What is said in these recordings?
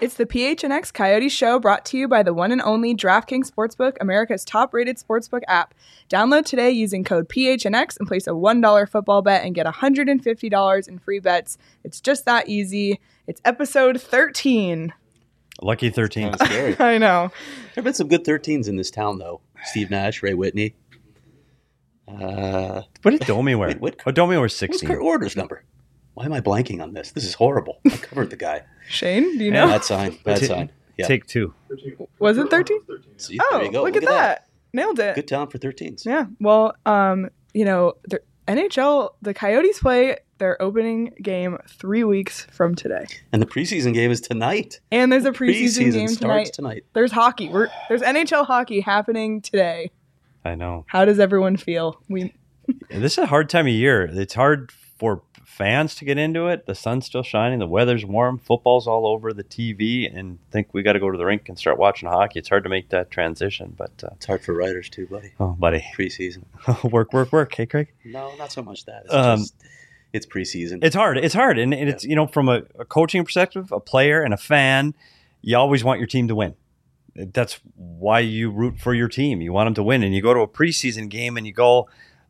It's the PHNX Coyote Show, brought to you by the one and only DraftKings Sportsbook, America's top-rated sportsbook app. Download today using code PHNX and place a $1 football bet and get $150 in free bets. It's just that easy. It's episode 13. Lucky 13. Kind of scary. I know. There have been some good 13s in this town, though. Steve Nash, Ray Whitney. What did Domi wear? Domi wears 16. What's Kurt Order's number? Why am I blanking on this? This is horrible. I covered the guy. Shane, do you know? Bad sign. Yeah. Take 2. Was it 13? See, Oh, there you go. look at that. Nailed it. Good town for 13s. Yeah. Well, the NHL, the Coyotes play their opening game 3 weeks from today. And the preseason game is tonight. And there's a preseason game starts tonight. There's hockey. There's NHL hockey happening today. I know. How does everyone feel? This is a hard time of year. It's hard for fans to get into it. The sun's still shining. The weather's warm. Football's all over the TV, and think we got to go to the rink and start watching hockey. It's hard to make that transition, but it's hard for writers too, buddy. Oh, buddy. Preseason. work. Hey, Craig. No, not so much that. It's preseason. It's hard, and it's from a coaching perspective, a player and a fan. You always want your team to win. That's why you root for your team. You want them to win, and you go to a preseason game and you go,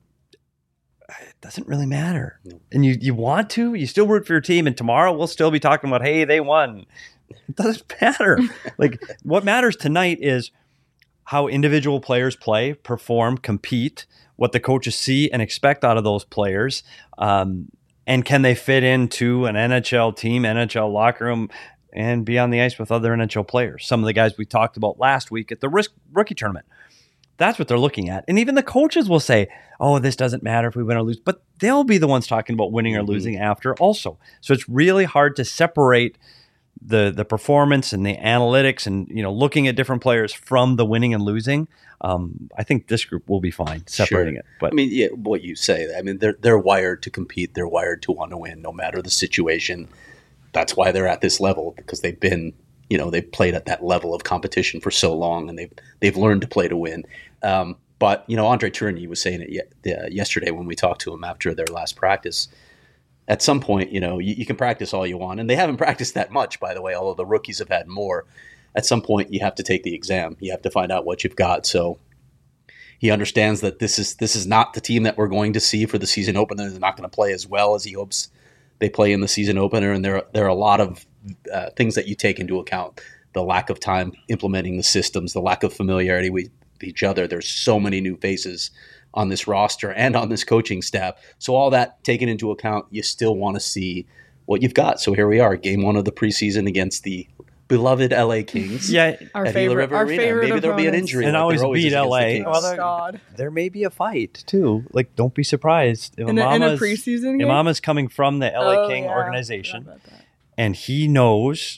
it doesn't really matter. No. And you want to, you still root for your team, and tomorrow we'll still be talking about, hey, they won. It doesn't matter. What matters tonight is how individual players play, perform, compete, what the coaches see and expect out of those players, and can they fit into an NHL team, NHL locker room, and be on the ice with other NHL players. Some of the guys we talked about last week at the rookie tournament. That's what they're looking at. And even the coaches will say, oh, this doesn't matter if we win or lose. But they'll be the ones talking about winning or losing after also. So it's really hard to separate the performance and the analytics and looking at different players from the winning and losing. I think this group will be fine separating it. But what you say. They're wired to compete. They're wired to want to win no matter the situation. That's why they're at this level, because they've been they've played at that level of competition for so long, and they've learned to play to win. But Andre Tourigny was saying it yesterday when we talked to him after their last practice. At some point, you can practice all you want, and they haven't practiced that much, by the way, although the rookies have had more. At some point, you have to take the exam. You have to find out what you've got. So he understands that this is not the team that we're going to see for the season opener. They're not going to play as well as he hopes they play in the season opener, and there are a lot of things that you take into account. The lack of time implementing the systems, the lack of familiarity with each other. There's so many new faces on this roster and on this coaching staff. So all that taken into account, you still want to see what you've got. So here we are, game 1 of the preseason against the beloved LA Kings. Yeah, our favorite Maybe there'll be an injury. And always beat LA. God. There may be a fight too. Don't be surprised. In a preseason game? Imama's coming from the LA King organization, and he knows,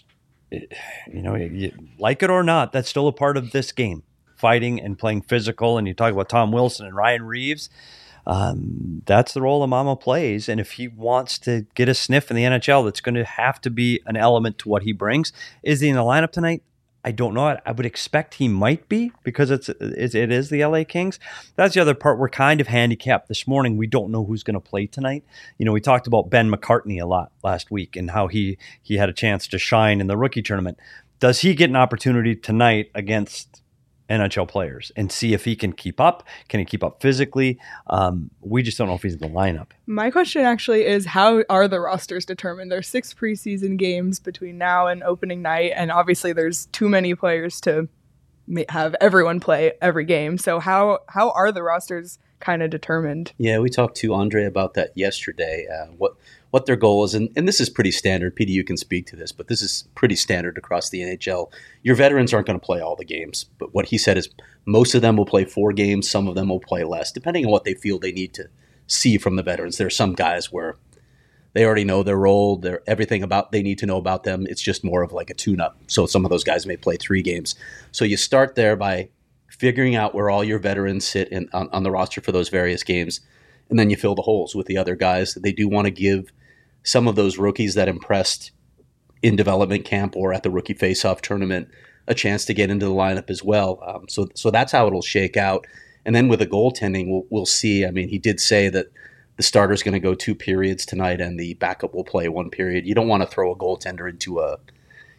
like it or not, that's still a part of this game. Fighting and playing physical, and you talk about Tom Wilson and Ryan Reeves. That's the role Imama plays, and if he wants to get a sniff in the NHL, that's going to have to be an element to what he brings. Is he in the lineup tonight? I don't know. I would expect he might be, because it is the LA Kings. That's the other part. We're kind of handicapped this morning. We don't know who's going to play tonight. We talked about Ben McCartney a lot last week and how he had a chance to shine in the rookie tournament. Does he get an opportunity tonight against NHL players and see if he can keep up? Can he keep up physically? We just don't know if he's in the lineup. My question actually is, how are the rosters determined? There's 6 preseason games between now and opening night, and obviously there's too many players to have everyone play every game. So how are the rosters kind of determined? Yeah, we talked to Andre about that yesterday, what their goal is. And this is pretty standard. Petey, you can speak to this, but this is pretty standard across the NHL. Your veterans aren't going to play all the games, but what he said is most of them will play 4 games. Some of them will play less, depending on what they feel they need to see from the veterans. There are some guys where they already know their role, everything about they need to know about them. It's just more of like a tune-up. So some of those guys may play 3 games. So you start there by figuring out where all your veterans sit on the roster for those various games, and then you fill the holes with the other guys. They do want to give some of those rookies that impressed in development camp or at the rookie face-off tournament a chance to get into the lineup as well. So that's how it'll shake out. And then with the goaltending, we'll see. He did say that the starter's going to go 2 periods tonight and the backup will play 1 period. You don't want to throw a goaltender into a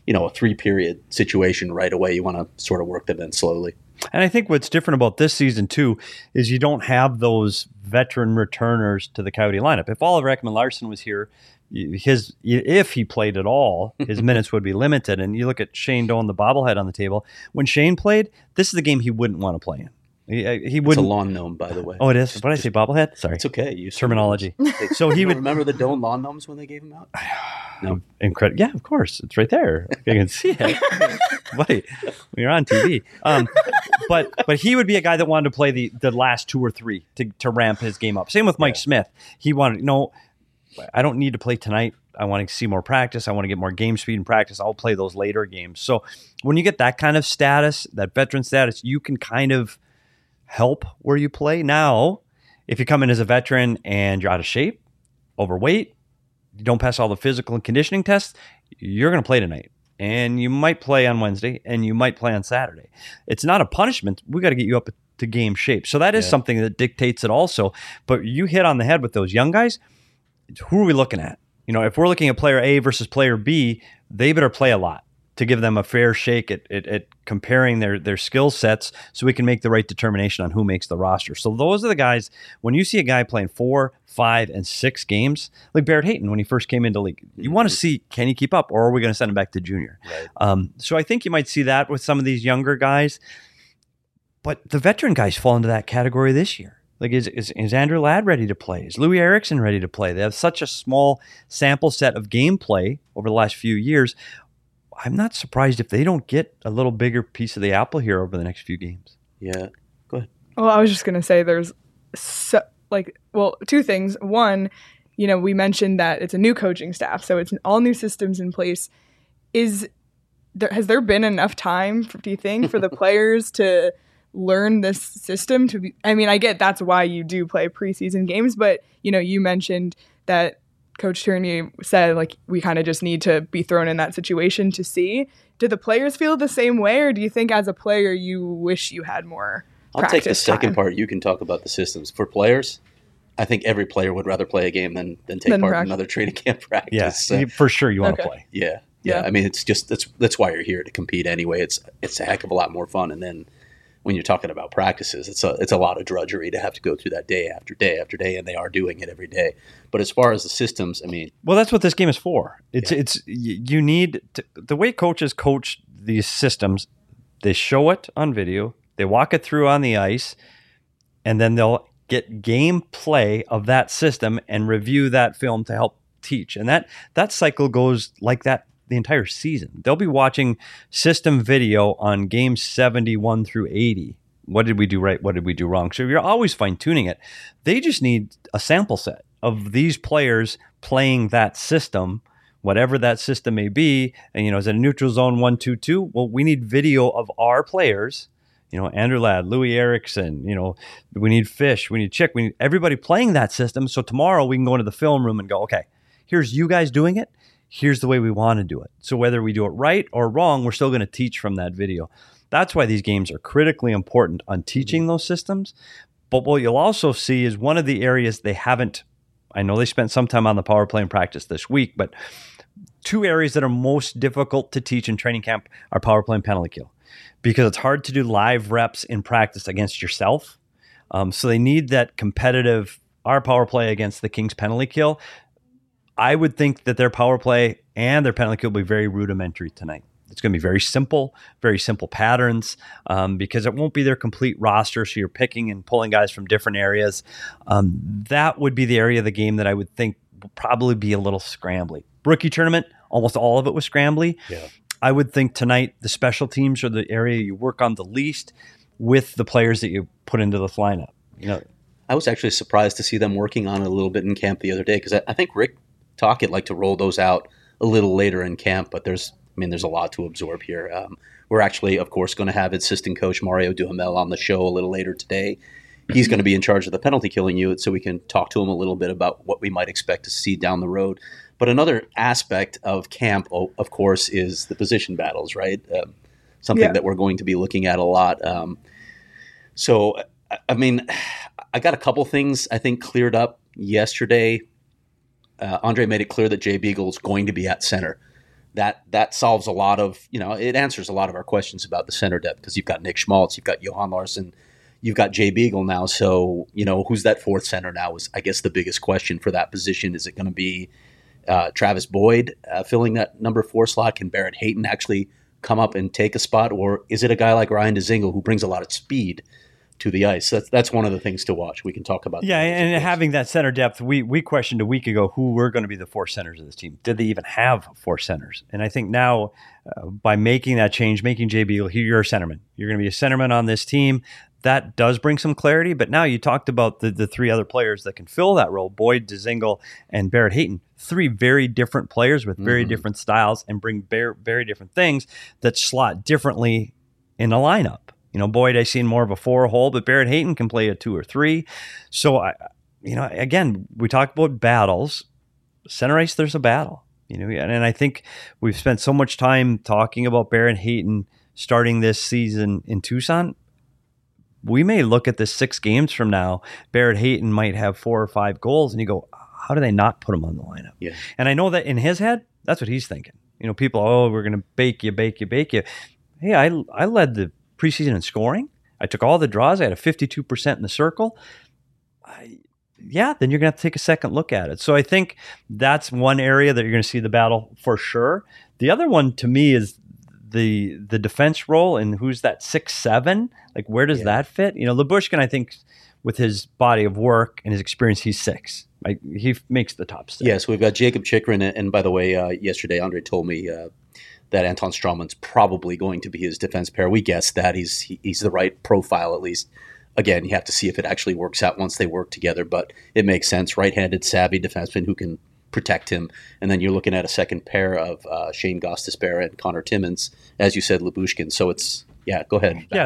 a 3-period situation right away. You want to sort of work them in slowly. And I think what's different about this season, too, is you don't have those veteran returners to the Coyote lineup. If Oliver Ekman-Larsson was here, if he played at all, his minutes would be limited. And you look at Shane Doan, the bobblehead on the table. When Shane played, this is the game he wouldn't want to play in. He wouldn't. It's a lawn gnome, by the way. Oh, it is? What did I say, bobblehead? Sorry. It's okay. Use terminology. So he would remember the Doan lawn gnomes when they gave them out? No. Incredible. Yeah, of course. It's right there. I can see it. Buddy, you're on TV. But he would be a guy that wanted to play the last 2 or 3 to ramp his game up. Same with Mike Smith. He wanted, I don't need to play tonight. I want to see more practice. I want to get more game speed in practice. I'll play those later games. So when you get that kind of status, that veteran status, you can kind of help where you play. Now, if you come in as a veteran and you're out of shape, overweight, you don't pass all the physical and conditioning tests, you're going to play tonight. And you might play on Wednesday and you might play on Saturday. It's not a punishment. We got to get you up to game shape. So that is something that dictates it also. But you hit on the head with those young guys. Who are we looking at? If we're looking at player A versus player B, they better play a lot to give them a fair shake at comparing their skill sets so we can make the right determination on who makes the roster. So those are the guys, when you see a guy playing 4, 5, and 6 games, like Barrett Hayton when he first came into league, you want to see, can he keep up, or are we going to send him back to junior? Right. So I think you might see that with some of these younger guys. But the veteran guys fall into that category this year. Like, is Andrew Ladd ready to play? Is Louis Eriksson ready to play? They have such a small sample set of gameplay over the last few years. I'm not surprised if they don't get a little bigger piece of the apple here over the next few games. Yeah. Go ahead. Well, I was just going to say there's 2 things. One, we mentioned that it's a new coaching staff, so it's all new systems in place. Has there been enough time, do you think, for the players to learn this system? I get that's why you do play preseason games, but, you mentioned that Coach Tierney said, we kind of just need to be thrown in that situation to see. Do the players feel the same way, or do you think as a player you wish you had more practice I'll take the second time? part. You can talk about the systems. For players, I think every player would rather play a game than take part in another training camp practice. Yeah, for sure you want to play. Yeah. It's just that's why you're here, to compete anyway. It's a heck of a lot more fun. And then when you're talking about practices, it's a lot of drudgery to have to go through that day after day after day, and they are doing it every day. But as far as the systems, well, that's what this game is for. You need to, the way coaches coach these systems. They show it on video, they walk it through on the ice, and then they'll get gameplay of that system and review that film to help teach. And that cycle goes like that the entire season. They'll be watching system video on games 71 through 80. What did we do right? What did we do wrong? So you're always fine-tuning it. They just need a sample set of these players playing that system, whatever that system may be. And, is it a neutral zone 1-2-2? Well, we need video of our players, Andrew Ladd, Louis Eriksson, we need Fish, we need Chick, we need everybody playing that system. So tomorrow we can go into the film room and go, okay, here's you guys doing it. Here's the way we want to do it. So whether we do it right or wrong, we're still going to teach from that video. That's why these games are critically important on teaching those systems. But what you'll also see is one of the areas they haven't, I know they spent some time on the power play in practice this week, but 2 areas that are most difficult to teach in training camp are power play and penalty kill, because it's hard to do live reps in practice against yourself. So they need that competitive, our power play against the Kings penalty kill. I would think that their power play and their penalty kill will be very rudimentary tonight. It's going to be very simple patterns, because it won't be their complete roster. So you're picking and pulling guys from different areas. That would be the area of the game that I would think will probably be a little scrambly. Rookie tournament, almost all of it was scrambly. Yeah. I would think tonight the special teams are the area you work on the least with the players that you put into the lineup. I was actually surprised to see them working on it a little bit in camp the other day, because I think Rick Tocchet liked to roll those out a little later in camp, but there's a lot to absorb here. We're actually, of course, going to have assistant coach Mario Duhamel on the show a little later today. He's going to be in charge of the penalty killing unit, so we can talk to him a little bit about what we might expect to see down the road. But another aspect of camp, of course, is the position battles, right? Something that we're going to be looking at a lot. I got a couple things I think cleared up yesterday. Andre made it clear that Jay Beagle is going to be at center. that solves a lot of, it answers a lot of our questions about the center depth, because you've got Nick Schmaltz, you've got Johan Larsson, you've got Jay Beagle now. So, who's that fourth center now is, I guess, the biggest question for that position. Is it going to be Travis Boyd filling that number 4 slot? Can Barrett Hayton actually come up and take a spot? Or is it a guy like Ryan Dzingel who brings a lot of speed to the ice? That's one of the things to watch. We can talk about that. Yeah, and having that center depth, we questioned a week ago who were going to be the 4 centers of this team. Did they even have 4 centers? And I think now, by making that change, making Jay Beagle, you're a centerman. You're going to be a centerman on this team. That does bring some clarity. But now you talked about the 3 other players that can fill that role: Boyd, Dzingel, and Barrett Hayton. 3 very different players with very different styles and bring very different things that slot differently in the lineup. Boyd, I've seen more of a 4 hole, but Barrett Hayton can play a 2 or 3. So, again, we talk about battles. Center ice, there's a battle. And I think we've spent so much time talking about Barrett Hayton starting this season in Tucson. We may look at this 6 games from now. Barrett Hayton might have 4 or 5 goals, and you go, how do they not put him on the lineup? Yeah. And I know that in his head, that's what he's thinking. People, we're going to bake you. Hey, I led the preseason in scoring. I took all the draws. I had a 52% in the circle. Then you're going to have to take a second look at it. So I think that's one area that you're going to see the battle for sure. The other one to me is the defense role, and who's that 6'7"? Like, where does that fit? Lyubushkin, I think, with his body of work and his experience, he's 6. He makes the top 6. Yes, we've got Jacob Chychrun, and by the way, yesterday Andre told me that Anton Strawman's probably going to be his defense pair. We guessed that he's the right profile, at least. Again, you have to see if it actually works out once they work together, but it makes sense. Right-handed, savvy defenseman who can protect him. And then you're looking at a second pair of Shane Gostisbehere and Connor Timmins, as you said, Lyubushkin. So it's, go ahead. Yeah,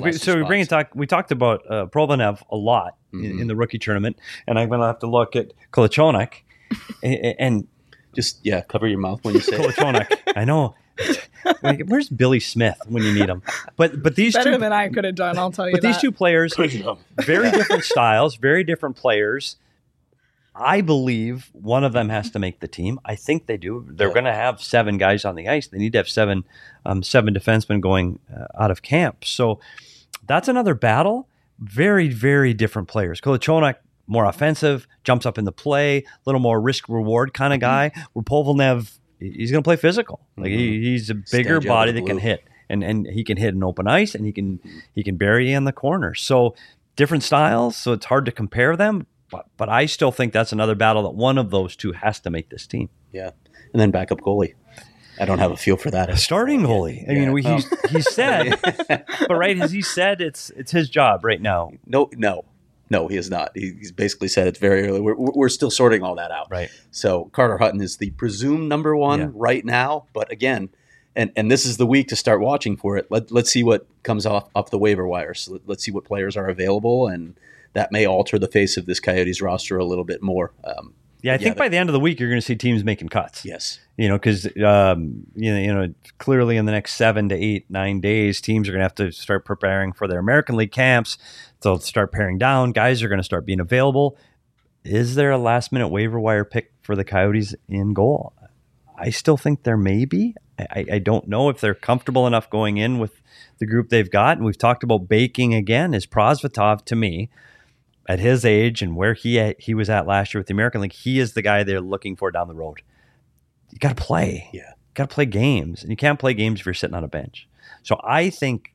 we talked about Probanev a lot in the rookie tournament, and I'm going to have to look at Kolichonik and just, cover your mouth when you say Kolichonik. I know. Where's Billy Smith when you need him? But these better than I could have done, I'll tell you. But these 2 players, very different styles, very different players. I believe one of them has to make the team. I think they do. They're going to have 7 guys on the ice. They need to have 7 defensemen going out of camp. So that's another battle. Very, very different players. Kolichonik, more offensive, jumps up in the play, a little more risk-reward kind of guy. Where Polvnev, he's going to play physical. Like he's a bigger body that can hit, and he can hit in open ice, and he can bury you in the corner. So different styles. So it's hard to compare them. But I still think that's another battle that one of those 2 has to make this team. Yeah, and then backup goalie. I don't have a feel for that. Starting goalie. He said, but right as he said, it's his job right now. No, he is not. He's basically said it's very early. We're still sorting all that out. Right. So Carter Hutton is the presumed number 1 right now. But again, and this is the week to start watching for it. Let's see what comes off the waiver wire. So let's see what players are available, and that may alter the face of this Coyotes roster a little bit more. I think by the end of the week, you're going to see teams making cuts. Yes. Because, clearly in the next 7 to 8, 9 days, teams are going to have to start preparing for their American League camps. They'll start paring down. Guys are going to start being available. Is there a last-minute waiver wire pick for the Coyotes in goal? I still think there may be. I don't know if they're comfortable enough going in with the group they've got. And we've talked about baking again. Is Prosvetov, to me, at his age and where he was at last year with the American League, he is the guy they're looking for down the road. You got to play. Yeah. You got to play games. And you can't play games if you're sitting on a bench. So I think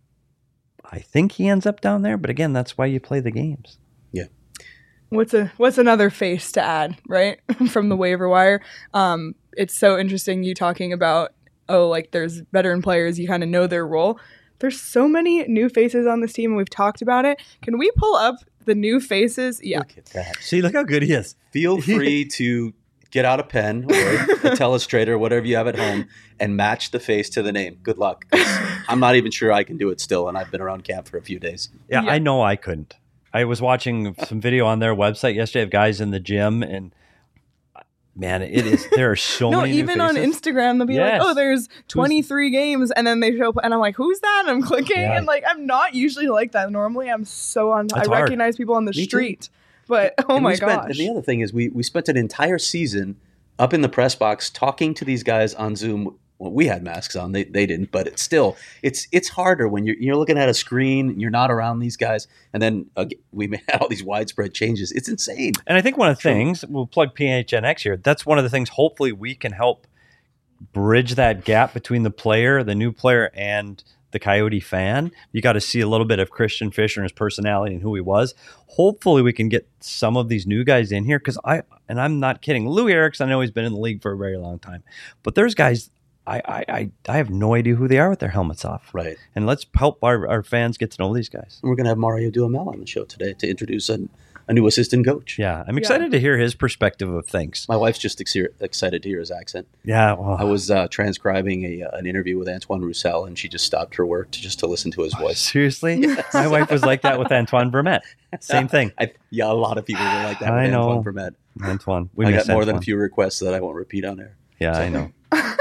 he ends up down there. But again, that's why you play the games. Yeah. What's another face to add, right? From the waiver wire. It's so interesting you talking about, there's veteran players, you kind of know their role. There's so many new faces on this team, and we've talked about it. Can we pull up the new faces? Yeah. Look at that. See, look how good he is. Feel free to get out a pen or a telestrator, whatever you have at home, and match the face to the name. Good luck. I'm not even sure I can do it still, and I've been around camp for a few days. Yeah, I know I couldn't. I was watching some video on their website yesterday of guys in the gym, and man, there are so many even new on faces. Instagram, they'll be like, there's 23 games, and then they show up, and I'm like, who's that? And I'm clicking, and I'm not usually like that. Normally, I'm so on. I recognize people on the street, but my gosh. And the other thing is, we spent an entire season up in the press box talking to these guys on Zoom Well, we had masks on. They didn't, but it's harder when you're looking at a screen and you're not around these guys. And then we had all these widespread changes. It's insane. And I think one of the things, we'll plug PHNX here, that's one of the things hopefully we can help bridge that gap between the player, the new player, and the Coyote fan. You got to see a little bit of Christian Fischer and his personality and who he was. Hopefully we can get some of these new guys in here, because I'm not kidding. Lou Erickson, I know he's been in the league for a very long time, but there's guys I have no idea who they are with their helmets off. Right. And let's help our fans get to know these guys. And we're going to have Mario Duhamel on the show today to introduce a new assistant coach. Yeah, I'm excited to hear his perspective of things. My wife's just excited to hear his accent. Yeah, well, I was transcribing an interview with Antoine Roussel, and she just stopped her work to listen to his voice. Seriously? Yes. My wife was like that with Antoine Vermette. Same thing. A lot of people were like that with Antoine Vermette. Antoine. I got more than a few requests that I won't repeat on air. Yeah, I know.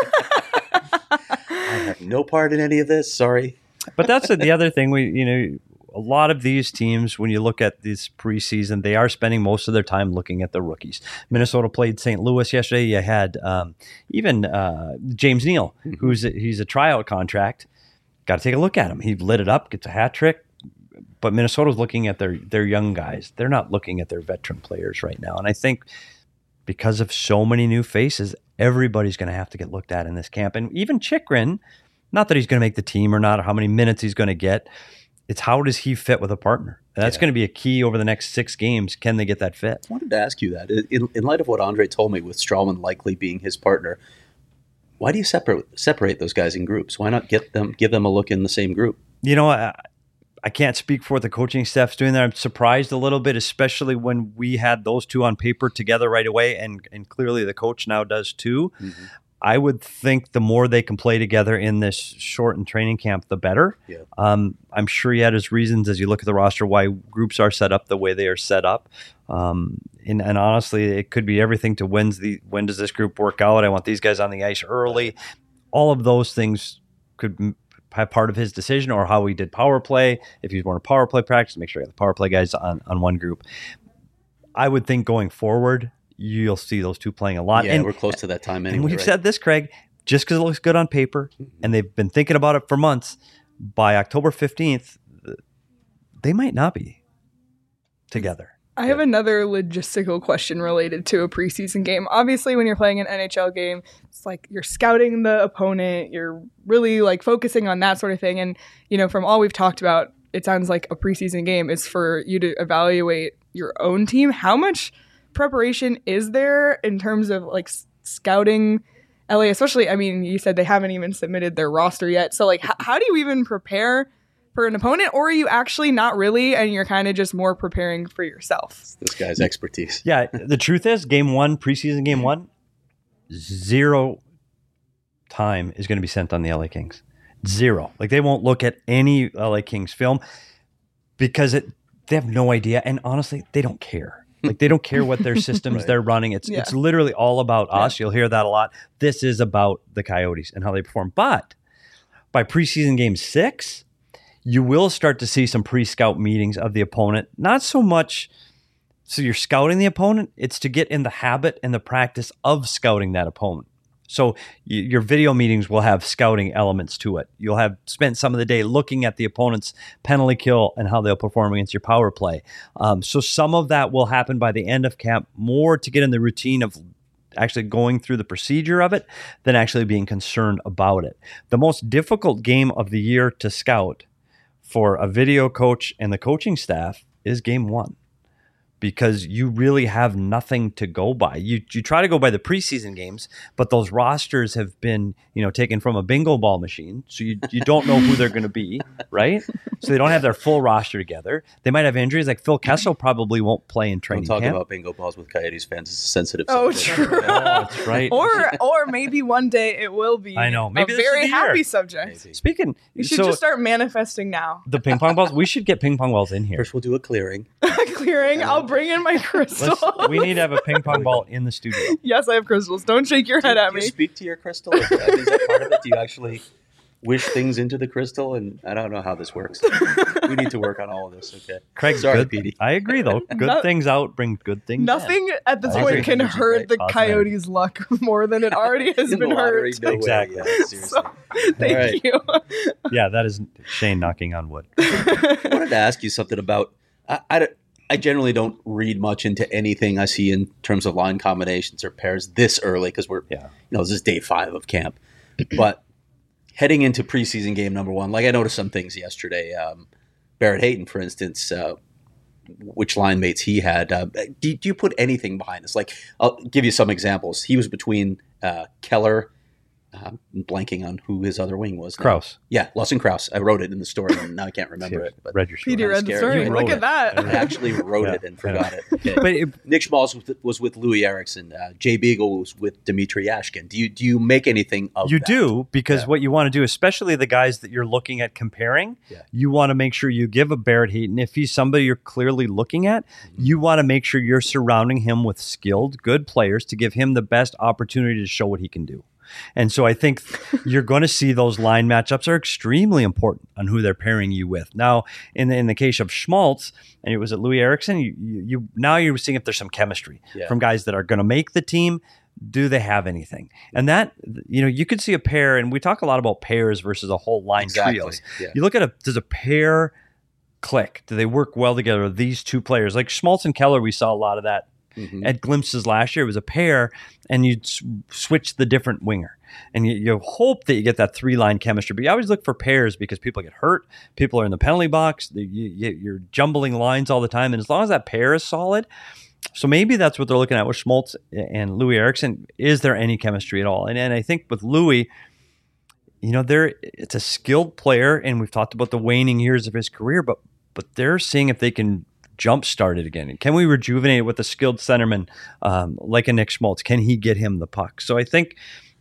I have no part in any of this. Sorry. But that's the other thing. A lot of these teams, when you look at this preseason, they are spending most of their time looking at the rookies. Minnesota played St. Louis yesterday. You had even James Neal, he's a tryout contract. Got to take a look at him. He lit it up, gets a hat trick. But Minnesota's looking at their young guys. They're not looking at their veteran players right now. And I think because of so many new faces, everybody's going to have to get looked at in this camp. And even Chychrun, not that he's going to make the team or not, or how many minutes he's going to get. It's how does he fit with a partner? And that's going to be a key over the next 6 games. Can they get that fit? I wanted to ask you that. In light of what Andre told me with Strawman likely being his partner, why do you separate those guys in groups? Why not give them a look in the same group? I can't speak for what the coaching staff's doing there. I'm surprised a little bit, especially when we had those two on paper together right away, and clearly the coach now does too. Mm-hmm. I would think the more they can play together in this shortened training camp, the better. Yeah. I'm sure he had his reasons as you look at the roster why groups are set up the way they are set up. And honestly, it could be everything to when does this group work out? I want these guys on the ice early. All of those things could have part of his decision, or how he did power play. If he's more a power play practice, make sure you have the power play guys on one group. I would think going forward, you'll see those two playing a lot. Yeah, and we're close to that time anyway. And we've said this, Craig, just because it looks good on paper, and they've been thinking about it for months, by October 15th, they might not be together. I have another logistical question related to a preseason game. Obviously, when you're playing an NHL game, it's like you're scouting the opponent. You're really like focusing on that sort of thing. And, from all we've talked about, it sounds like a preseason game is for you to evaluate your own team. How much preparation is there in terms of like scouting LA? Especially, you said they haven't even submitted their roster yet. So like, how do you even prepare for an opponent, or are you actually not really, and you're kind of just more preparing for yourself? This guy's expertise. Yeah, the truth is, preseason game 1, 0 time is going to be sent on the LA Kings. 0. Like, they won't look at any LA Kings film because they have no idea, and honestly, they don't care. Like, they don't care what their systems right. they're running. It's literally all about us. You'll hear that a lot. This is about the Coyotes and how they perform. But by preseason game 6, you will start to see some pre-scout meetings of the opponent. Not so much so you're scouting the opponent, it's to get in the habit and the practice of scouting that opponent. So your video meetings will have scouting elements to it. You'll have spent some of the day looking at the opponent's penalty kill and how they'll perform against your power play. So some of that will happen by the end of camp, more to get in the routine of actually going through the procedure of it than actually being concerned about it. The most difficult game of the year to scout for a video coach and the coaching staff is game 1, because you really have nothing to go by. You try to go by the preseason games, but those rosters have been, taken from a bingo ball machine. So you don't know who they're going to be, right? So they don't have their full roster together. They might have injuries. Like Phil Kessel probably won't play in training camp. Don't talk about bingo balls with Coyotes fans. It's a sensitive subject. Oh, true. That's right. Or maybe one day it will be. I know. Maybe a very happy subject. Maybe. Speaking, you should just start manifesting now. The ping pong balls. We should get ping pong balls in here. First, we'll do a clearing. I'll bring in my crystals. We need to have a ping pong ball in the studio. Yes, I have crystals. Don't shake your head at me. Do you speak to your crystal? Is that part of it? Do you actually wish things into the crystal? And I don't know how this works. We need to work on all of this. Okay. Craig, Sorry, good, Petey. I agree, though. Good No- things out bring good things in. Nothing at this I point agree. can Energy, hurt right? the Positive Coyotes' luck more than it already has In the been lottery, hurt. no way. Exactly. Yeah, seriously. So, thank All right. you. Yeah, that is Shane knocking on wood. I wanted to ask you something about. I generally don't read much into anything I see in terms of line combinations or pairs this early because this is day 5 of camp. But heading into preseason game number 1, like I noticed some things yesterday. Barrett Hayton, for instance, which line mates he had. Do you put anything behind this? Like, I'll give you some examples. He was between Keller. I'm blanking on who his other wing was now. Kraus. Yeah, Lawson Kraus. I wrote it in the story, and now I can't remember it. But Read your story. Peter read the scared. story. You Look wrote at it. that. I actually wrote Yeah, it and forgot it. Okay. But Nick Schmaltz was with Louis Erickson. Jay Beagle was with Dmitry Ashkin. Do you make anything of you that? do, because Yeah. what you want to do, especially the guys that you're looking at comparing, Yeah. you want to make sure you give a Barrett Hayton. If he's somebody you're clearly looking at, you want to make sure you're surrounding him with skilled, good players to give him the best opportunity to show what he can do. And so I think you're going to see those line matchups are extremely important on who they're pairing you with. Now, in the case of Schmaltz, and it was at Louis Erickson, you now you're seeing if there's some chemistry from guys that are going to make the team. Do they have anything? And that, you could see a pair, and we talk a lot about pairs versus a whole line trios. Yeah. You look at does a pair click? Do they work well together? These two players, like Schmaltz and Keller, we saw a lot of that at glimpses last year. It was a pair, and you'd switch the different winger. And you hope that you get that 3-line chemistry. But you always look for pairs because people get hurt. People are in the penalty box. You're jumbling lines all the time. And as long as that pair is solid, so maybe that's what they're looking at with Schmaltz and Louis Erickson. Is there any chemistry at all? And I think with Louis, it's a skilled player, and we've talked about the waning years of his career, but they're seeing if they can jumpstart it again. Can we rejuvenate it with a skilled centerman like a Nick Schmaltz? Can he get him the puck? So I think,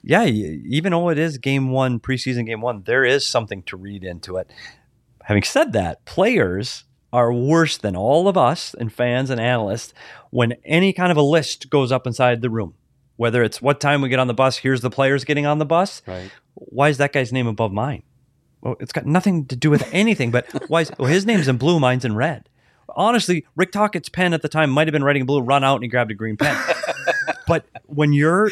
even though it is preseason game one, there is something to read into it. Having said that, players are worse than all of us and fans and analysts when any kind of a list goes up inside the room. Whether it's what time we get on the bus, here's the players getting on the bus. Right. Why is that guy's name above mine? Well, it's got nothing to do with anything, but his name's in blue, mine's in red. Honestly, Rick Tockett's pen at the time might have been writing blue, run out, and he grabbed a green pen. But when you're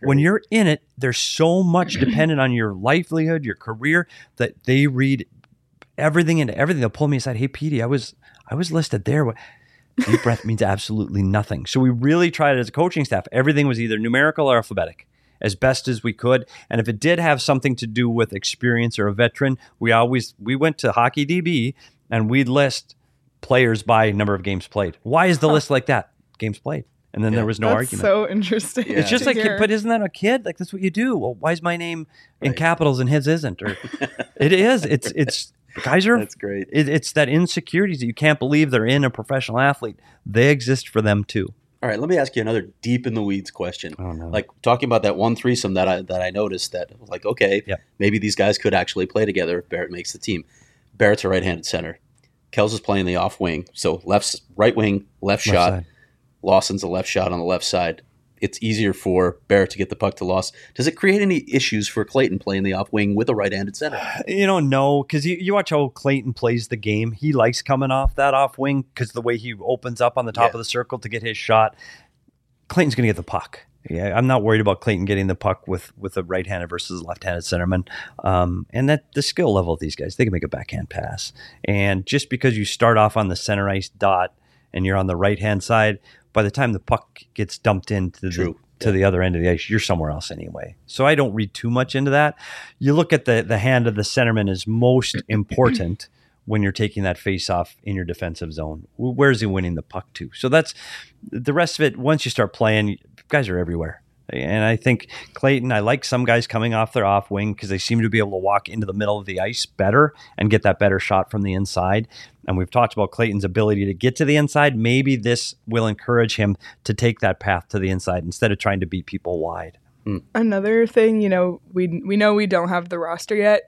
in it, there's so much dependent on your livelihood, your career, that they read everything into everything. They'll pull me aside. Hey, Petey, I was listed there. Deep breath means absolutely nothing. So we really tried it as a coaching staff. Everything was either numerical or alphabetic as best as we could. And if it did have something to do with experience or a veteran, we went to Hockey DB and we'd list players by number of games played. Why is the list like that? Games played. And then there was no That's argument. so interesting. Yeah. It's just to like, hear. but isn't that a kid? Like, that's what you do. Well, why is my name in capitals and his isn't? Or it is. It's guys are. That's great. It's that insecurities that you can't believe they're in a professional athlete. They exist for them too. All right, let me ask you another deep in the weeds question. Oh, no. Like talking about that one threesome that I noticed that was like, okay, maybe these guys could actually play together if Barrett makes the team. Barrett's a right-handed center. Kels is playing the off wing, so right wing, left shot. side. Lawson's a left shot on the left side. It's easier for Barrett to get the puck to Lawson. Does it create any issues for Clayton playing the off wing with a right-handed center? No, because you watch how Clayton plays the game. He likes coming off that off wing because the way he opens up on the top of the circle to get his shot. Clayton's going to get the puck. Yeah, I'm not worried about Clayton getting the puck with a right-handed versus a left-handed centerman. And that the skill level of these guys, they can make a backhand pass. And just because you start off on the center ice dot and you're on the right-hand side, by the time the puck gets dumped into the other end of the ice, you're somewhere else anyway. So I don't read too much into that. You look at the hand of the centerman is most important when you're taking that face-off in your defensive zone. Where's he winning the puck to? So that's the rest of it. Once you start playing, guys are everywhere. And I think Clayton, I like some guys coming off their off wing because they seem to be able to walk into the middle of the ice better and get that better shot from the inside. And we've talked about Clayton's ability to get to the inside. Maybe this will encourage him to take that path to the inside instead of trying to beat people wide. Another thing, we know we don't have the roster yet.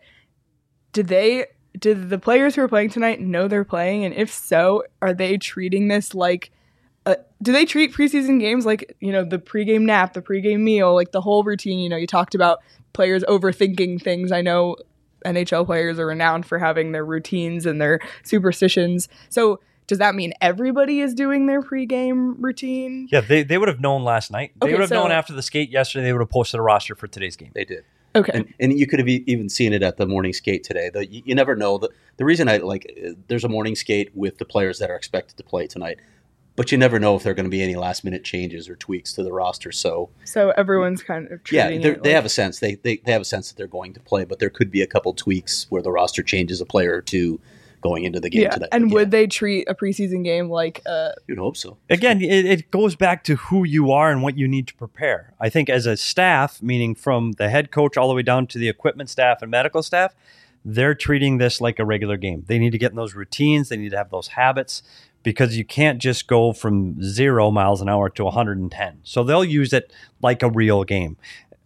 Did the players who are playing tonight know they're playing? And if so, are they treating this like do they treat preseason games like, the pregame nap, the pregame meal, like the whole routine? You talked about players overthinking things. I know NHL players are renowned for having their routines and their superstitions. So does that mean everybody is doing their pregame routine? Yeah, they would have known last night. They would have known after the skate yesterday. They would have posted a roster for today's game. They did. Okay. And you could have even seen it at the morning skate today. You never know. The reason there's a morning skate with the players that are expected to play tonight, but you never know if there are going to be any last minute changes or tweaks to the roster. So everyone's kind of treating they have a sense. They have a sense that they're going to play, but there could be a couple tweaks where the roster changes a player or two going into the game tonight. And would they treat a preseason game like you'd hope so. Again, it goes back to who you are and what you need to prepare. I think as a staff, meaning from the head coach all the way down to the equipment staff and medical staff, they're treating this like a regular game. They need to get in those routines. They need to have those habits, because you can't just go from 0 miles an hour to 110. So they'll use it like a real game.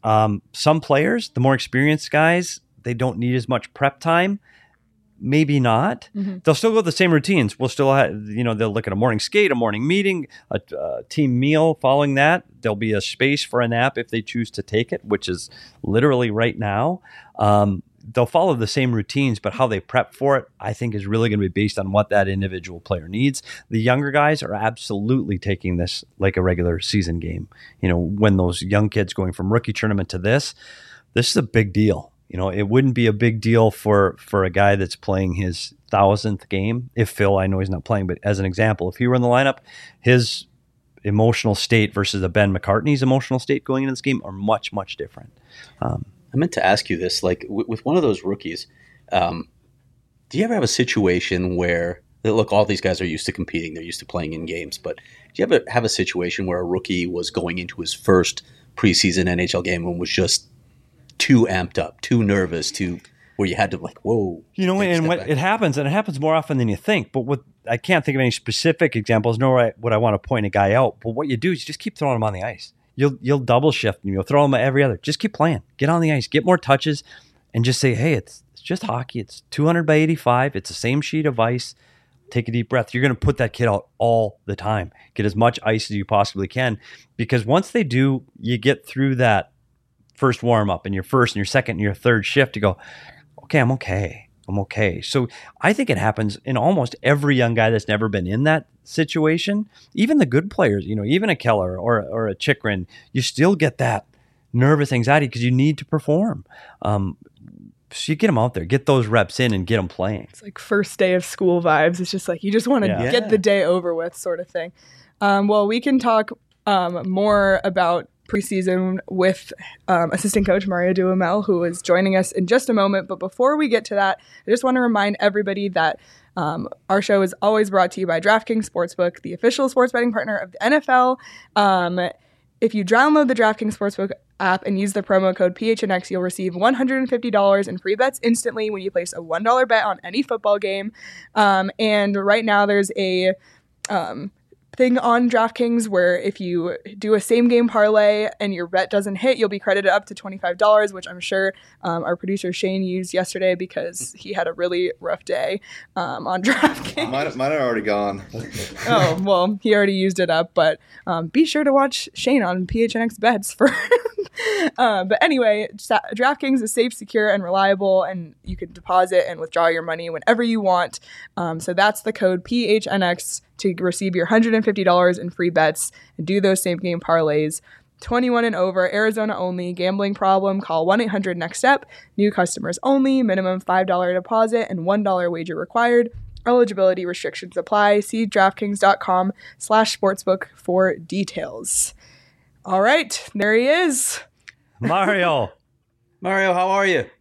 Some players, the more experienced guys, they don't need as much prep time. Maybe not. Mm-hmm. They'll still go the same routines. We'll still have, they'll look at a morning skate, a morning meeting, a team meal. Following that, there'll be a space for a nap if they choose to take it, which is literally right now. They'll follow the same routines, but how they prep for it, I think, is really going to be based on what that individual player needs. The younger guys are absolutely taking this like a regular season game. When those young kids going from rookie tournament to this is a big deal. It wouldn't be a big deal for a guy that's playing his 1,000th game. If Phil, I know he's not playing, but as an example, if he were in the lineup, his emotional state versus a Ben McCartney's emotional state going into this game are much, much different. I meant to ask you this, like with one of those rookies, do you ever have a situation where, look, all these guys are used to competing, they're used to playing in games, but do you ever have a situation where a rookie was going into his first preseason NHL game and was just too amped up, too nervous, where you had to whoa. It happens more often than you think. But I can't think of any specific examples, nor would I want to point a guy out. But what you do is you just keep throwing him on the ice. You'll double shift and you'll throw him every other. Just keep playing. Get on the ice. Get more touches, and just say, hey, it's just hockey. It's 200 by 85. It's the same sheet of ice. Take a deep breath. You're going to put that kid out all the time. Get as much ice as you possibly can, because once they do, you get through that first warm up and your first and your second and your third shift to go, okay, I'm okay. So I think it happens in almost every young guy that's never been in that situation. Even the good players, even a Keller or a Chikrin, you still get that nervous anxiety because you need to perform. So you get them out there, get those reps in and get them playing. It's like first day of school vibes. It's just like you just want to get the day over with sort of thing. Well, we can talk more about preseason with assistant coach Mario Duhamel, who is joining us in just a moment. But before we get to that, I just want to remind everybody that our show is always brought to you by DraftKings Sportsbook, the official sports betting partner of the NFL. If you download the DraftKings Sportsbook app and use the promo code PHNX, you'll receive $150 in free bets instantly when you place a $1 bet on any football game. And right now there's a thing on DraftKings where if you do a same game parlay and your bet doesn't hit, you'll be credited up to $25, which I'm sure our producer Shane used yesterday because he had a really rough day on DraftKings. Mine are already gone. Oh, well, he already used it up, but be sure to watch Shane on PHNX Bets for but anyway, DraftKings is safe, secure, and reliable, and you can deposit and withdraw your money whenever you want. So that's the code PHNX to receive your $150 in free bets and do those same game parlays. 21 and over, Arizona only. Gambling problem? Call 1-800-NEXT-STEP. New customers only. Minimum $5 deposit and $1 wager required. Eligibility restrictions apply. See DraftKings.com/sportsbook for details. All right, there he is. Mario, how are you?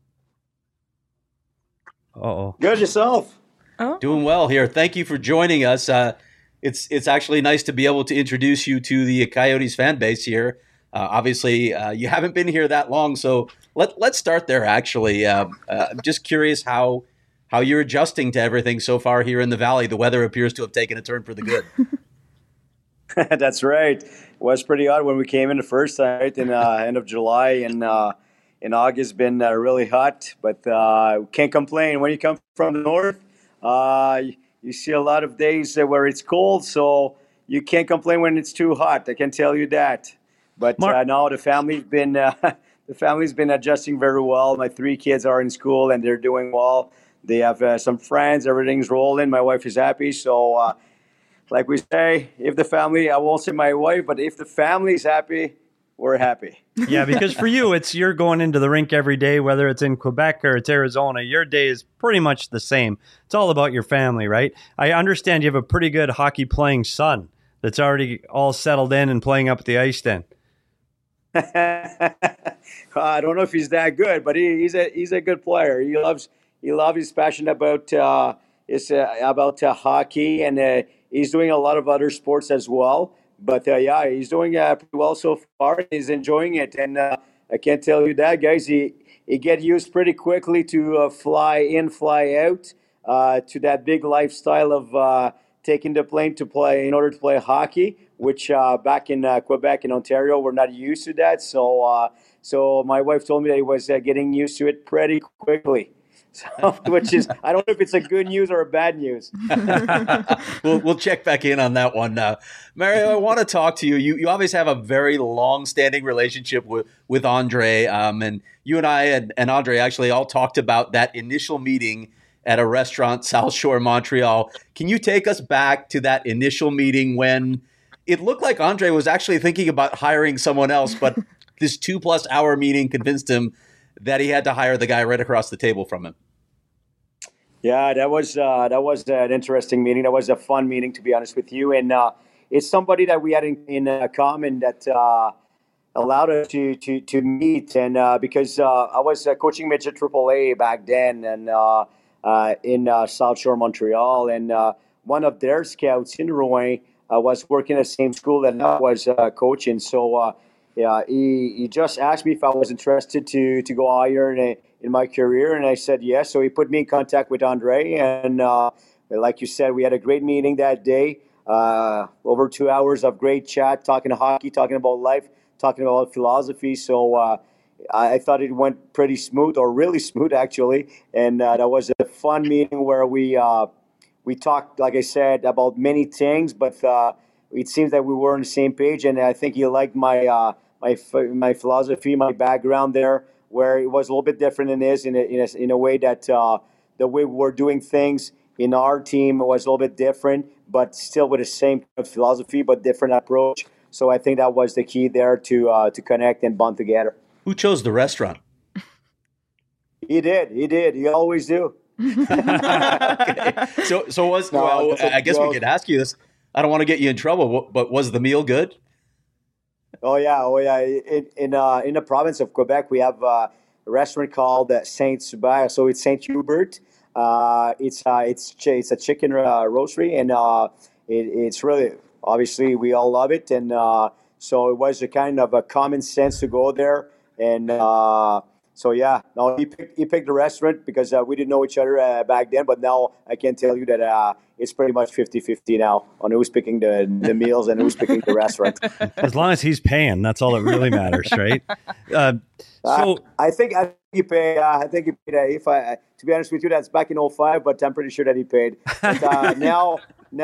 Uh-oh. Good, yourself? Oh. Doing well here. Thank you for joining us. It's actually nice to be able to introduce you to the Coyotes fan base here. Obviously, you haven't been here that long, so let's start there, actually. I'm just curious how you're adjusting to everything so far here in the Valley. The weather appears to have taken a turn for the good. That's right. It was pretty odd when we came in the first night in end of July, and in August been really hot, but can't complain. When you come from the north, you see a lot of days where it's cold, so you can't complain when it's too hot. I can tell you that. But now the family's been The family's been adjusting very well. My 3 kids are in school and they're doing well. They have some friends. Everything's rolling. My wife is happy. So, like we say, if the family, I won't say my wife, but if the family's happy, we're happy. Yeah, because for you, you're going into the rink every day, whether it's in Quebec or it's Arizona. Your day is pretty much the same. It's all about your family, right? I understand you have a pretty good hockey playing son that's already all settled in and playing up at the ice then. I don't know if he's that good, but he's a good player. He's passionate about hockey, and he's doing a lot of other sports as well. But yeah, he's doing pretty well so far. He's enjoying it, and I can't tell you that, guys. He get used pretty quickly to fly in, fly out, to that big lifestyle of taking the plane to play in order to play hockey, which back in Quebec and Ontario, we're not used to that. So my wife told me that he was getting used to it pretty quickly. So, which is, I don't know if it's a good news or a bad news. We'll check back in on that one. Mario, I want to talk to you. You obviously have a very long-standing relationship with Andre, and you and I and Andre actually all talked about that initial meeting at a restaurant, South Shore, Montreal. Can you take us back to that initial meeting when it looked like Andre was actually thinking about hiring someone else, but this 2+ hour meeting convinced him that he had to hire the guy right across the table from him? Yeah, that was an interesting meeting. That was a fun meeting, to be honest with you. And it's somebody that we had in common that allowed us to meet. And because I was coaching midget AAA back then, and in South Shore, Montreal, and one of their scouts in Rouen was working at the same school that I was coaching. So yeah, he just asked me if I was interested to go higher in my career, and I said yes. So he put me in contact with Andre, and like you said, we had a great meeting that day. Over 2 hours of great chat, talking hockey, talking about life, talking about philosophy. So I thought it went pretty smooth, or really smooth actually, and that was a fun meeting where we talked, like I said, about many things, but it seems that we were on the same page, and I think he liked my philosophy, my background there, where it was a little bit different than his in a way that the way we're doing things in our team was a little bit different, but still with the same philosophy, but different approach. So I think that was the key there to connect and bond together. Who chose the restaurant? He did. He always do. Okay. So I guess we could ask you this. I don't want to get you in trouble, but was the meal good? Oh yeah. In the province of Quebec, we have a restaurant called Saint Hubert. So it's Saint Hubert. It's a chicken roastery, and it's really, obviously we all love it, and so it was a kind of a common sense to go there, and so yeah, no, he picked the restaurant because we didn't know each other back then, but now I can tell you that it's pretty much 50-50 now on who's picking the meals and who's picking the restaurant. As long as he's paying, that's all that really matters, right? I think he paid. I think he paid. To be honest with you, that's back in 2005, but I'm pretty sure that he paid. But now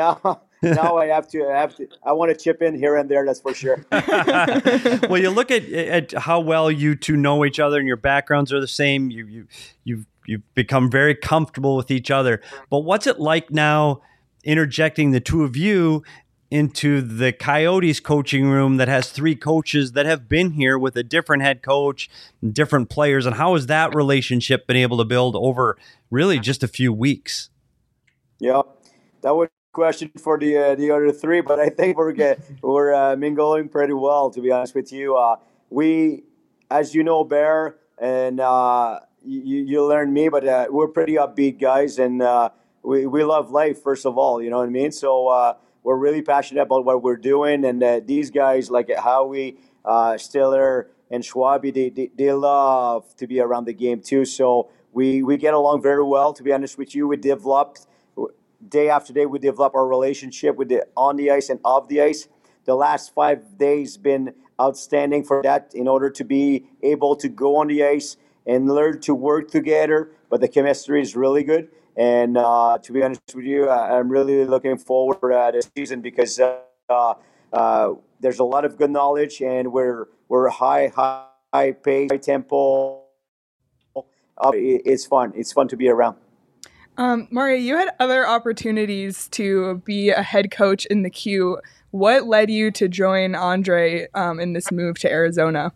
I want to chip in here and there. That's for sure. Well, you look at how well you two know each other, and your backgrounds are the same. You've become very comfortable with each other. But what's it like now, interjecting the two of you into the Coyotes coaching room that has 3 coaches that have been here with a different head coach, different players, and how has that relationship been able to build over really just a few weeks? Yeah, that was a question for the other 3, but I think we're mingling pretty well, to be honest with you. We, as you know, Bear, and you learned me, but we're pretty upbeat guys, and we love life, first of all, you know what I mean? So we're really passionate about what we're doing, and these guys, like Howie, Stiller, and Schwabi, they love to be around the game too. So we get along very well, to be honest with you. We developed, day after day, we develop our relationship on the ice and off the ice. The last 5 days been outstanding for that, in order to be able to go on the ice and learn to work together. But the chemistry is really good. And to be honest with you, I'm really looking forward to this season, because there's a lot of good knowledge, and we're high pace, high tempo. It's fun. It's fun to be around. Mario, you had other opportunities to be a head coach in the Q. What led you to join Andre in this move to Arizona?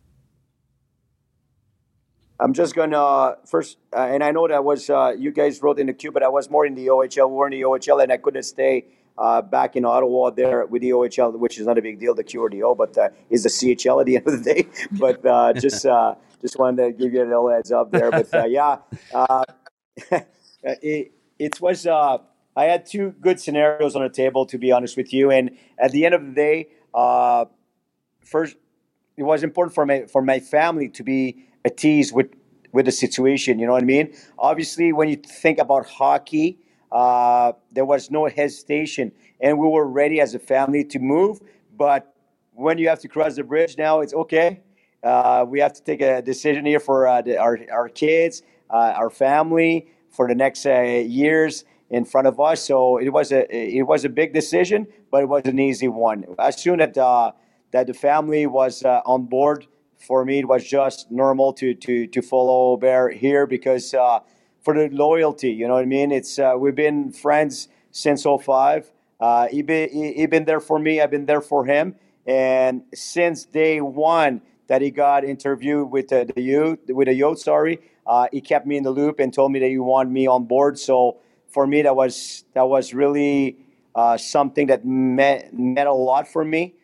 I'm just gonna first, and I know that was you guys wrote in the Q, but I was more in the OHL. We were in the OHL, and I couldn't stay back in Ottawa there with the OHL, which is not a big deal, the Q or the O, but is the CHL at the end of the day. But just wanted to give you a little heads up there. But it was. I had two good scenarios on the table, to be honest with you, and at the end of the day, first, it was important for my family to be at ease with the situation. You know what I mean? Obviously, when you think about hockey, there was no hesitation, and we were ready as a family to move. But when you have to cross the bridge, now it's okay. We have to take a decision here for our kids, our family, for the next years in front of us. So it was a big decision, but it was an easy one. As soon as that the family was on board, for me, it was just normal to follow Bear here because for the loyalty, you know what I mean? It's we've been friends since 2005. He been there for me. I've been there for him. And since day one that he got interviewed with the youth, he kept me in the loop and told me that he wanted me on board. So for me, that was really something that meant a lot for me.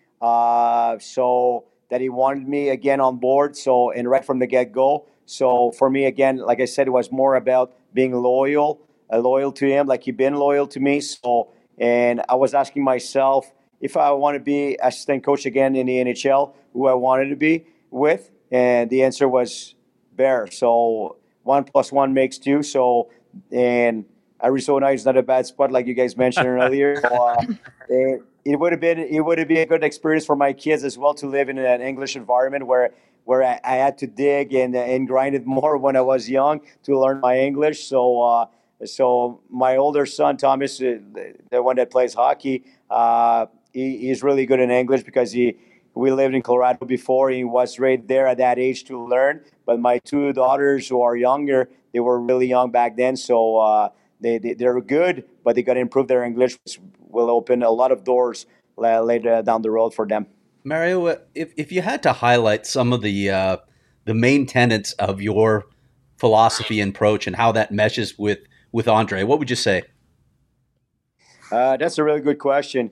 So that he wanted me again on board. So, and right from the get-go. So for me, again, like I said, it was more about being loyal to him, like he'd been loyal to me. So, and I was asking myself if I want to be assistant coach again in the NHL, who I wanted to be with. And the answer was Bear. So 1 + 1 makes 2. So, and Arizona is not a bad spot, like you guys mentioned earlier. So, it would have been a good experience for my kids as well to live in an English environment where I had to dig and grind it more when I was young to learn my English. So my older son Thomas, the one that plays hockey, he's really good in English because we lived in Colorado before. He was right there at that age to learn. But my two daughters who are younger, they were really young back then, so they're good, but they got to improve their English, which will open a lot of doors later down the road for them. Mario, if you had to highlight some of the main tenets of your philosophy and approach and how that meshes with Andre, what would you say? That's a really good question.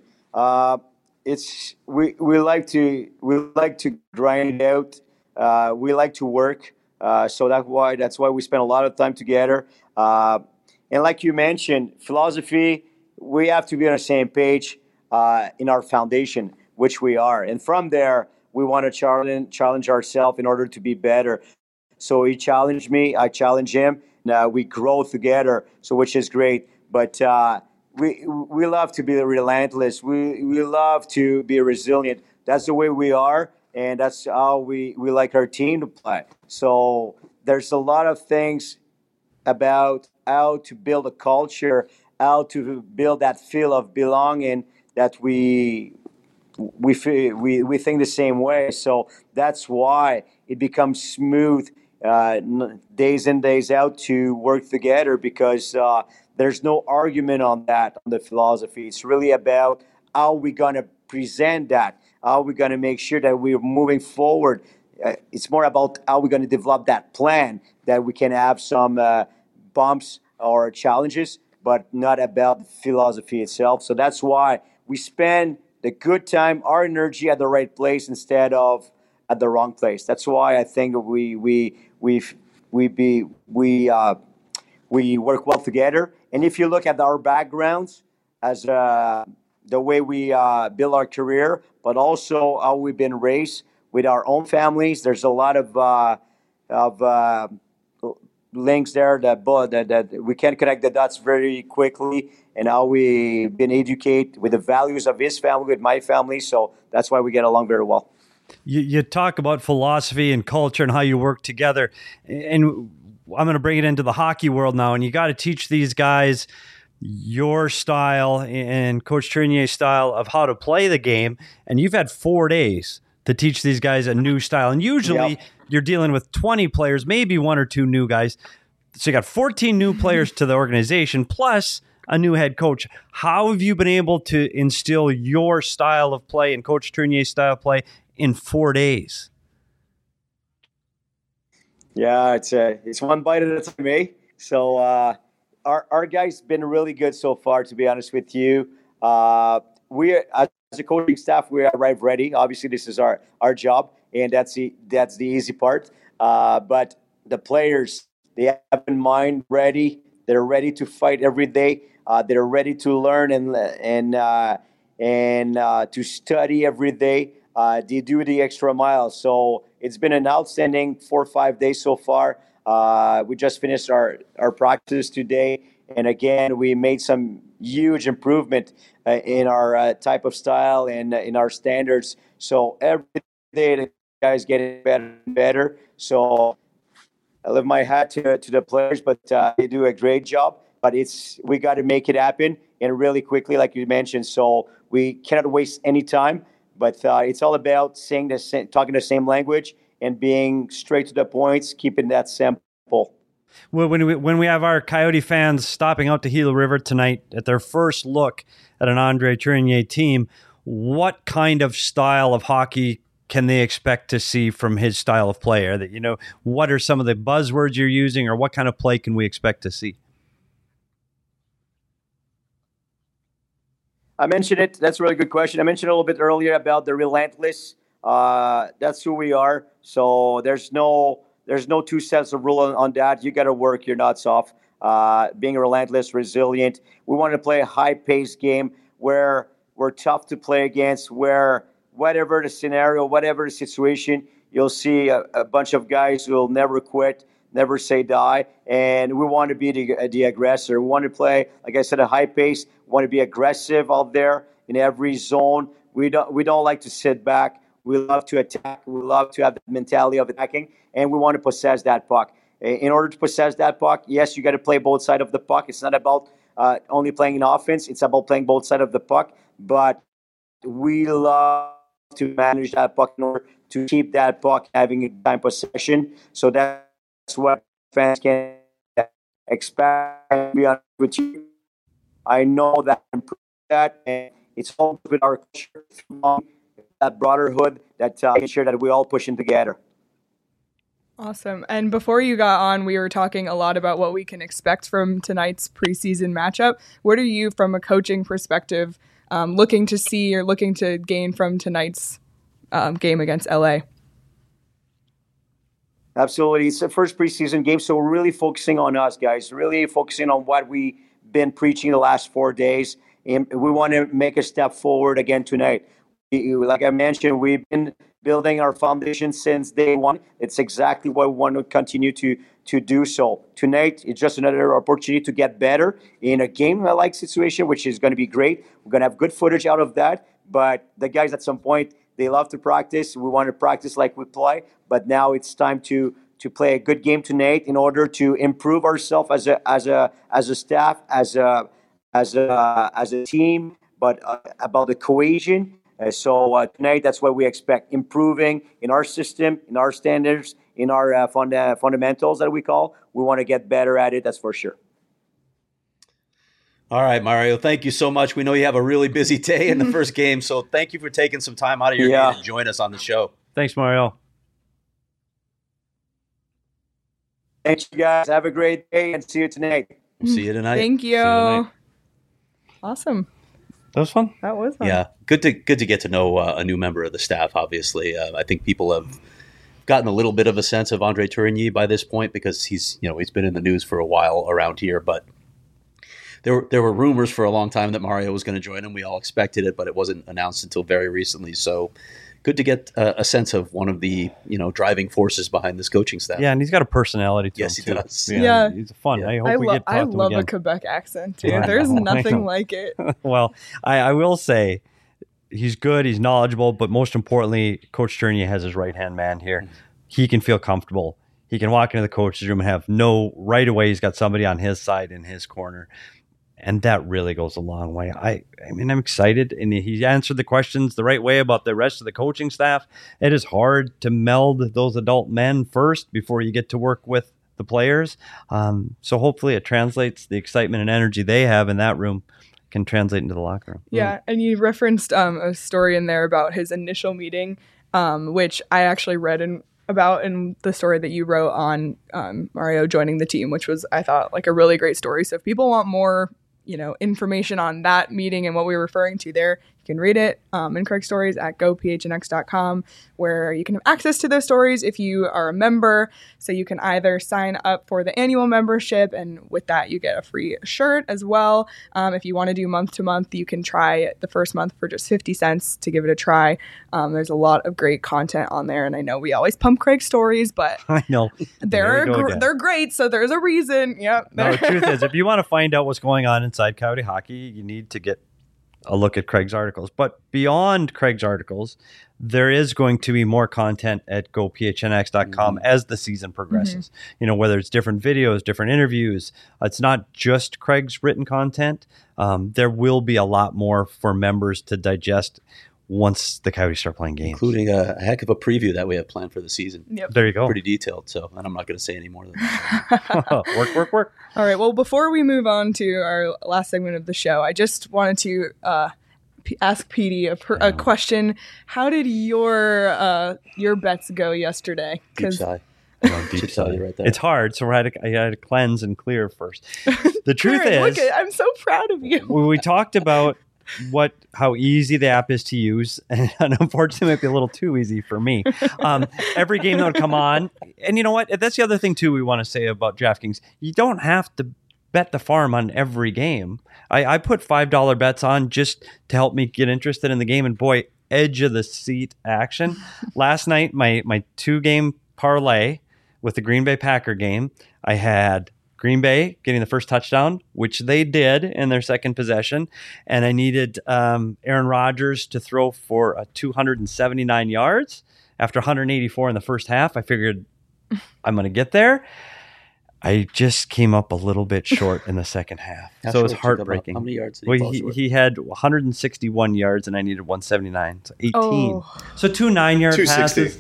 We like to grind it out. We like to work. So that's why we spend a lot of time together. And like you mentioned, philosophy, we have to be on the same page in our foundation, which we are. And from there, we want to challenge ourselves in order to be better. So he challenged me, I challenge him. Now we grow together, so which is great. But we love to be relentless. We love to be resilient. That's the way we are, and that's how we like our team to play. So there's a lot of things about how to build a culture, how to build that feel of belonging that we think the same way. So that's why it becomes smooth days in, days out to work together, because there's no argument on that, on the philosophy. It's really about how we're going to present that, how we're going to make sure that we're moving forward. It's more about how we're going to develop that plan, that we can have some bumps or challenges, but not about the philosophy itself. So that's why we spend the good time, our energy at the right place instead of at the wrong place. That's why I think we work well together. And if you look at our backgrounds, as the way we build our career, but also how we've been raised with our own families, there's a lot of links there that we can connect the dots very quickly, and how we've been educated with the values of his family, with my family. So that's why we get along very well. You talk about philosophy and culture and how you work together, and I'm going to bring it into the hockey world now, and you got to teach these guys your style and Coach Tournier's style of how to play the game, and you've had 4 days to teach these guys a new style. And usually you're dealing with 20 players, maybe one or two new guys. So you got 14 new players to the organization, plus a new head coach. How have you been able to instill your style of play and Coach Tournier's style of play in 4 days? Yeah, it's one bite at a time, eh? So our guys been really good so far, to be honest with you. We, as a coaching staff, we arrive ready. Obviously, this is our job, and that's the easy part. But the players, they have in mind ready. They're ready to fight every day. They're ready to learn and to study every day. They do the extra mile. So it's been an outstanding 4 or 5 days so far. We just finished our practice today. And again, we made some huge improvement in our type of style and in our standards. So every day the guys getting better and better. So I lift my hat to the players, but they do a great job. But we got to make it happen and really quickly, like you mentioned. So we cannot waste any time. But it's all about talking the same language and being straight to the points, keeping that simple. Well, when we have our Coyote fans stopping out to Gila River tonight at their first look at an Andre Tournier team, what kind of style of hockey can they expect to see from his style of play? What are some of the buzzwords you're using, or what kind of play can we expect to see? I mentioned it. That's a really good question. I mentioned a little bit earlier about the relentless. That's who we are. So there's no two sets of rule on that. You got to work your nuts off. Being relentless, resilient. We want to play a high-paced game where we're tough to play against, where whatever the scenario, whatever the situation, you'll see a bunch of guys who will never quit, never say die. And we want to be the aggressor. We want to play, like I said, a high pace. We want to be aggressive out there in every zone. We don't like to sit back. We love to attack. We love to have the mentality of attacking, and we want to possess that puck. In order to possess that puck, yes, you got to play both sides of the puck. It's not about only playing in offense. It's about playing both sides of the puck. But we love to manage that puck in order to keep that puck having a time possession. So that's what fans can expect. To be honest with you, I know that, and it's all with our culture, that brotherhood, that making sure that we all pushing together. Awesome. And before you got on, we were talking a lot about what we can expect from tonight's preseason matchup. What are you, from a coaching perspective, looking to see or looking to gain from tonight's game against LA? Absolutely. It's the first preseason game, so we're really focusing on us, guys, really focusing on what we've been preaching the last 4 days. And we want to make a step forward again tonight. Like I mentioned, we've been building our foundation since day one. It's exactly what we want to continue to do so. Tonight, it's just another opportunity to get better in a game-like situation, which is going to be great. We're going to have good footage out of that. But the guys at some point, they love to practice. We want to practice like we play. But now it's time to play a good game tonight in order to improve ourselves as a staff, as a team, but about the cohesion. So tonight, that's what we expect: improving in our system, in our standards, in our fundamentals that we call. We want to get better at it. That's for sure. All right, Mario, thank you so much. We know you have a really busy day in the first game, so thank you for taking some time out of your day to join us on the show. Thanks, Mario. Thanks, you guys. Have a great day, and see you tonight. We'll see you tonight. Thank you. Awesome. That was fun. That was fun. Yeah, good to get to know a new member of the staff. Obviously, I think people have gotten a little bit of a sense of Andre Tourigny by this point because he's been in the news for a while around here. But there were rumors for a long time that Mario was going to join him. We all expected it, but it wasn't announced until very recently. So good to get a sense of one of the driving forces behind this coaching staff. Yeah, and he's got a personality to him. Yes, he does. Yeah, he's fun. Yeah. I love a Quebec accent too. Yeah, There's nothing like it. Well, I will say he's good. He's knowledgeable, but most importantly, Coach Tournier has his right hand man here. Mm-hmm. He can feel comfortable. He can walk into the coach's room and have right away. He's got somebody on his side in his corner. And that really goes a long way. I mean, I'm excited, and he answered the questions the right way about the rest of the coaching staff. It is hard to meld those adult men first before you get to work with the players. So hopefully it translates, the excitement and energy they have in that room can translate into the locker room. Yeah, and you referenced a story in there about his initial meeting, which I actually read about in the story that you wrote on Mario joining the team, which was, I thought, like a really great story. So if people want more, information on that meeting and what we were referring to there, you can read it in Craig's stories at gophnx.com, where you can have access to those stories if you are a member. So you can either sign up for the annual membership, and with that you get a free shirt as well. If you want to do month to month, you can try the first month for just 50 cents to give it a try. There's a lot of great content on there, and I know we always pump Craig's stories, but I know they're great, so there's a reason. Yep. No, the truth is, if you want to find out what's going on inside Coyote hockey, you need to get a look at Craig's articles. But beyond Craig's articles, there is going to be more content at gophnx.com as the season progresses. Whether it's different videos, different interviews, it's not just Craig's written content. There will be a lot more for members to digest once the Coyotes start playing games. Including a heck of a preview that we have planned for the season. Yep. There you go. Pretty detailed, and I'm not going to say any more than that. Work. All right. Well, before we move on to our last segment of the show, I just wanted to ask Petey a question. How did your bets go yesterday? Deep sigh. Deep sigh right there. It's hard, so I had to cleanse and clear first. The truth is, I'm so proud of you. we talked about how easy the app is to use, and unfortunately it might be a little too easy for me. Every game that would come on, and you know what, that's the other thing too we want to say about DraftKings. You don't have to bet the farm on every game. I put $5 bets on just to help me get interested in the game, and boy, edge of the seat action. Last night, my 2-game parlay with the Green Bay Packer game, I had Green Bay getting the first touchdown, which they did in their second possession. And I needed Aaron Rodgers to throw for 279 yards after 184 in the first half. I figured I'm going to get there. I just came up a little bit short in the second half. So it was heartbreaking. How many yards did he fall short? He had 161 yards and I needed 179. So 18. Oh. So 2 9-yard passes.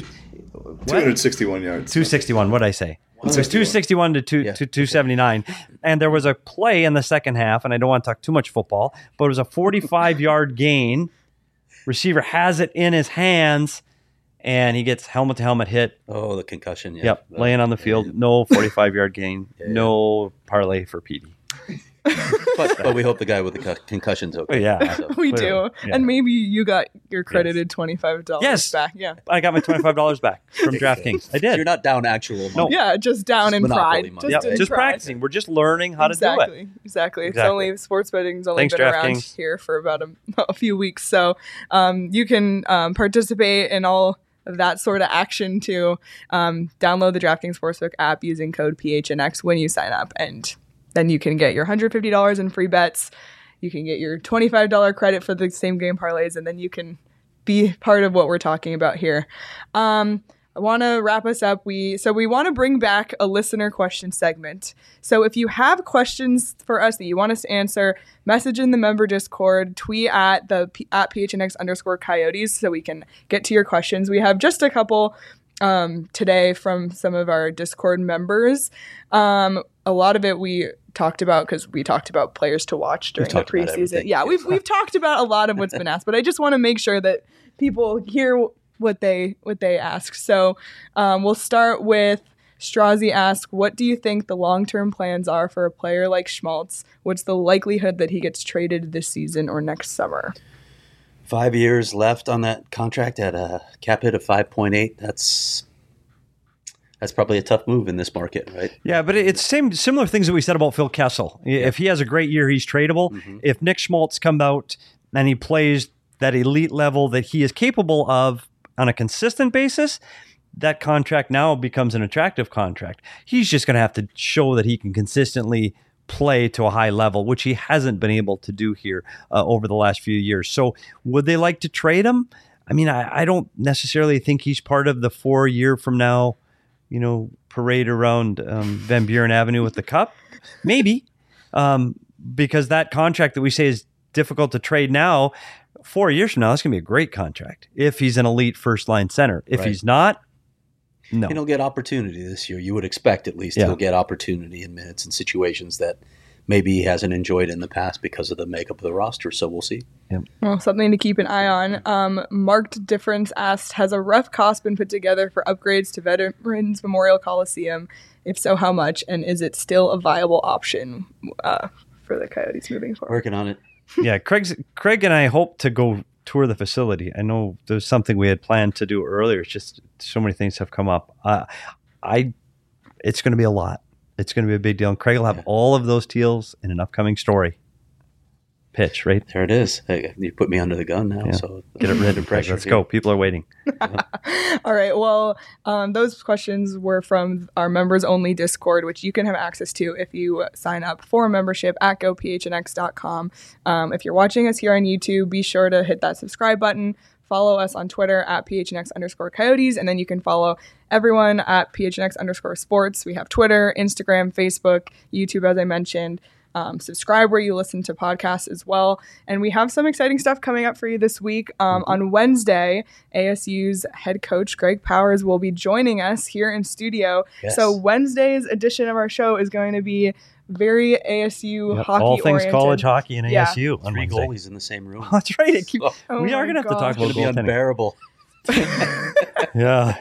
261 yards. 261. What did I say? It was 261 to 279. And there was a play in the second half, and I don't want to talk too much football, but it was a 45-yard gain. Receiver has it in his hands, and he gets helmet-to-helmet hit. Oh, the concussion. Yeah. Yep, laying on the field. Yeah. No 45-yard gain. No parlay for Petey. But we hope the guy with the concussion's okay. Yeah. So. We do. Yeah. And maybe you got your credited $25 back. Yeah. I got my $25 back from DraftKings. I did. You're not down actual money. No. Yeah, just down in pride. Just practicing. We're just learning how to do it. Exactly. It's only, sports betting's only been around here for about a few weeks. So you can participate in all of that sort of action to download the DraftKings Sportsbook app using code PHNX when you sign up, and then you can get your $150 in free bets. You can get your $25 credit for the same game parlays, and then you can be part of what we're talking about here. I want to wrap us up. We want to bring back a listener question segment. So if you have questions for us that you want us to answer, message in the member Discord, tweet at PHNX_Coyotes so we can get to your questions. We have just a couple today from some of our Discord members. A lot of it we talked about because we talked about players to watch during the preseason. Yeah, we've talked about a lot of what's been asked, but I just want to make sure that people hear what they ask. So we'll start with Strozzi asks, what do you think the long-term plans are for a player like Schmaltz? What's the likelihood that he gets traded this season or next summer? 5 years left on that contract at a cap hit of 5.8. That's probably a tough move in this market, right? Yeah, but it's similar things that we said about Phil Kessel. Yeah. If he has a great year, he's tradable. Mm-hmm. If Nick Schmaltz comes out and he plays that elite level that he is capable of on a consistent basis, that contract now becomes an attractive contract. He's just going to have to show that he can consistently play to a high level, which he hasn't been able to do here over the last few years. So would they like to trade him? I mean, I don't necessarily think he's part of the 4 year from now, parade around Van Buren Avenue with the cup. Maybe. because that contract that we say is difficult to trade now, 4 years from now, that's going to be a great contract if he's an elite first line center. If he's not, no. And he'll get opportunity this year. You would expect at least he'll get opportunity in minutes and situations that maybe he hasn't enjoyed in the past because of the makeup of the roster. So we'll see. Well, something to keep an eye on. Marked Difference asked, has a rough cost been put together for upgrades to Veterans Memorial Coliseum? If so, how much? And is it still a viable option for the Coyotes moving forward? Working on it. Yeah, Craig and I hope to go tour the facility. I know there's something we had planned to do earlier. It's just so many things have come up. It's going to be a lot. It's going to be a big deal. And Craig will have all of those deals in an upcoming story. Pitch, right? There it is. Hey, you put me under the gun now, so get it ready. Pressure. Let's go. People are waiting. All right. Well, those questions were from our members only Discord, which you can have access to if you sign up for a membership at gophnx.com. If you're watching us here on YouTube, be sure to hit that subscribe button. Follow us on Twitter at PHNX_Coyotes, and then you can follow everyone at PHNX_sports. We have Twitter, Instagram, Facebook, YouTube, as I mentioned. Subscribe where you listen to podcasts as well. And we have some exciting stuff coming up for you this week. On Wednesday, ASU's head coach, Greg Powers, will be joining us here in studio. Yes. So Wednesday's edition of our show is going to be very ASU hockey all things oriented. College hockey and ASU. On 3 Wednesday. goalies in the same room. That's right. my We are going to have to talk gosh. about It's going to be goaltending. unbearable. Yeah.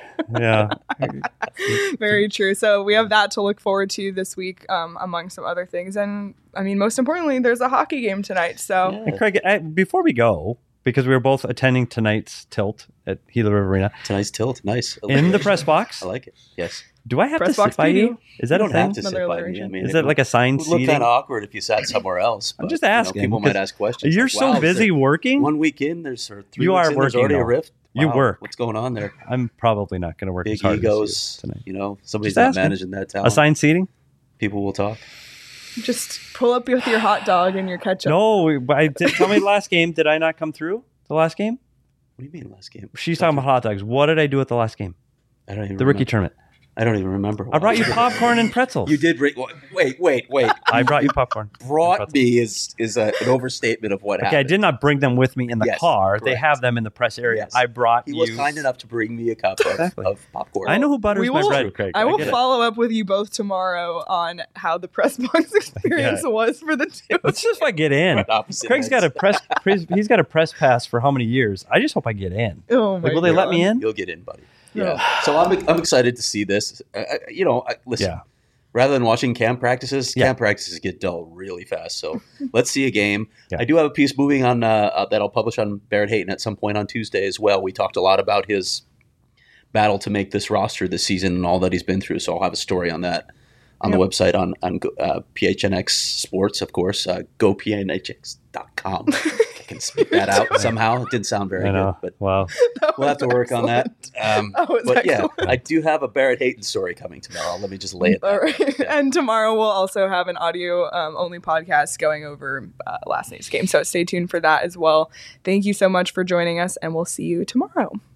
Very true. So we have that to look forward to this week, among some other things. And I mean, most importantly, there's a hockey game tonight. So And Craig, before we go, because we were both attending tonight's tilt at Gila River Arena, Tonight's tilt. Nice. in the press box, I like it. Yes. do I have Press to sit box by PD? you? Is that You a don't have thing? to sit Another by me. I alliteration. mean, Is that like assigned it would look seating? kind of awkward if you sat somewhere else. I'm but, just you know, asking, people might because ask questions. You're like, so wow, is busy there working. 1 week in, there's 3 You weeks are in, there's working, already a though. rift. You Wow, work. What's going on there? I'm probably not going to work as Big hard egos. as tonight. You know, somebody's Just not asking. managing that talent. Assigned seating? People will talk. just pull up with your hot dog and your ketchup. No, tell me the last game. Did I not come through the last game? What do you mean last game? She's talking about hot dogs. What did I do at the last game? I don't even The rookie remember. tournament. I don't even remember. I brought you popcorn and pretzels. You did. Wait. I brought you popcorn. and Brought pretzels. me is an overstatement of what Okay, I happened. did not bring them with me in the Yes, car. They correct. have them in the press area. Yes. I brought He you. was kind enough to bring me a cup of popcorn. I know who butters We my will- bread, Craig. I will get it. follow up with you both tomorrow on how the press box experience was for the two. Let's just if I get in. Right opposite Craig's got ends. a press. He's got a press pass for how many years? I just hope I get in. Oh my Like, will they let me in? You'll get in, buddy. Yeah. So I'm excited to see this. Listen. Yeah. Rather than watching camp practices, Yeah. camp practices get dull really fast. So let's see a game. Yeah. I do have a piece moving on that I'll publish on Barrett Hayton at some point on Tuesday as well. We talked a lot about his battle to make this roster this season and all that he's been through. So I'll have a story on that on the website on PHNX Sports, of course. GoPHNX.com. I can speak that out somehow. It didn't sound very I know. good, but Wow. we'll have to work on that. That was But yeah, excellent. I do have a Barrett Hayton story coming tomorrow. Let me just lay it All out. right. And tomorrow we'll also have an audio only podcast going over last night's game. So stay tuned for that as well. Thank you so much for joining us, and we'll see you tomorrow.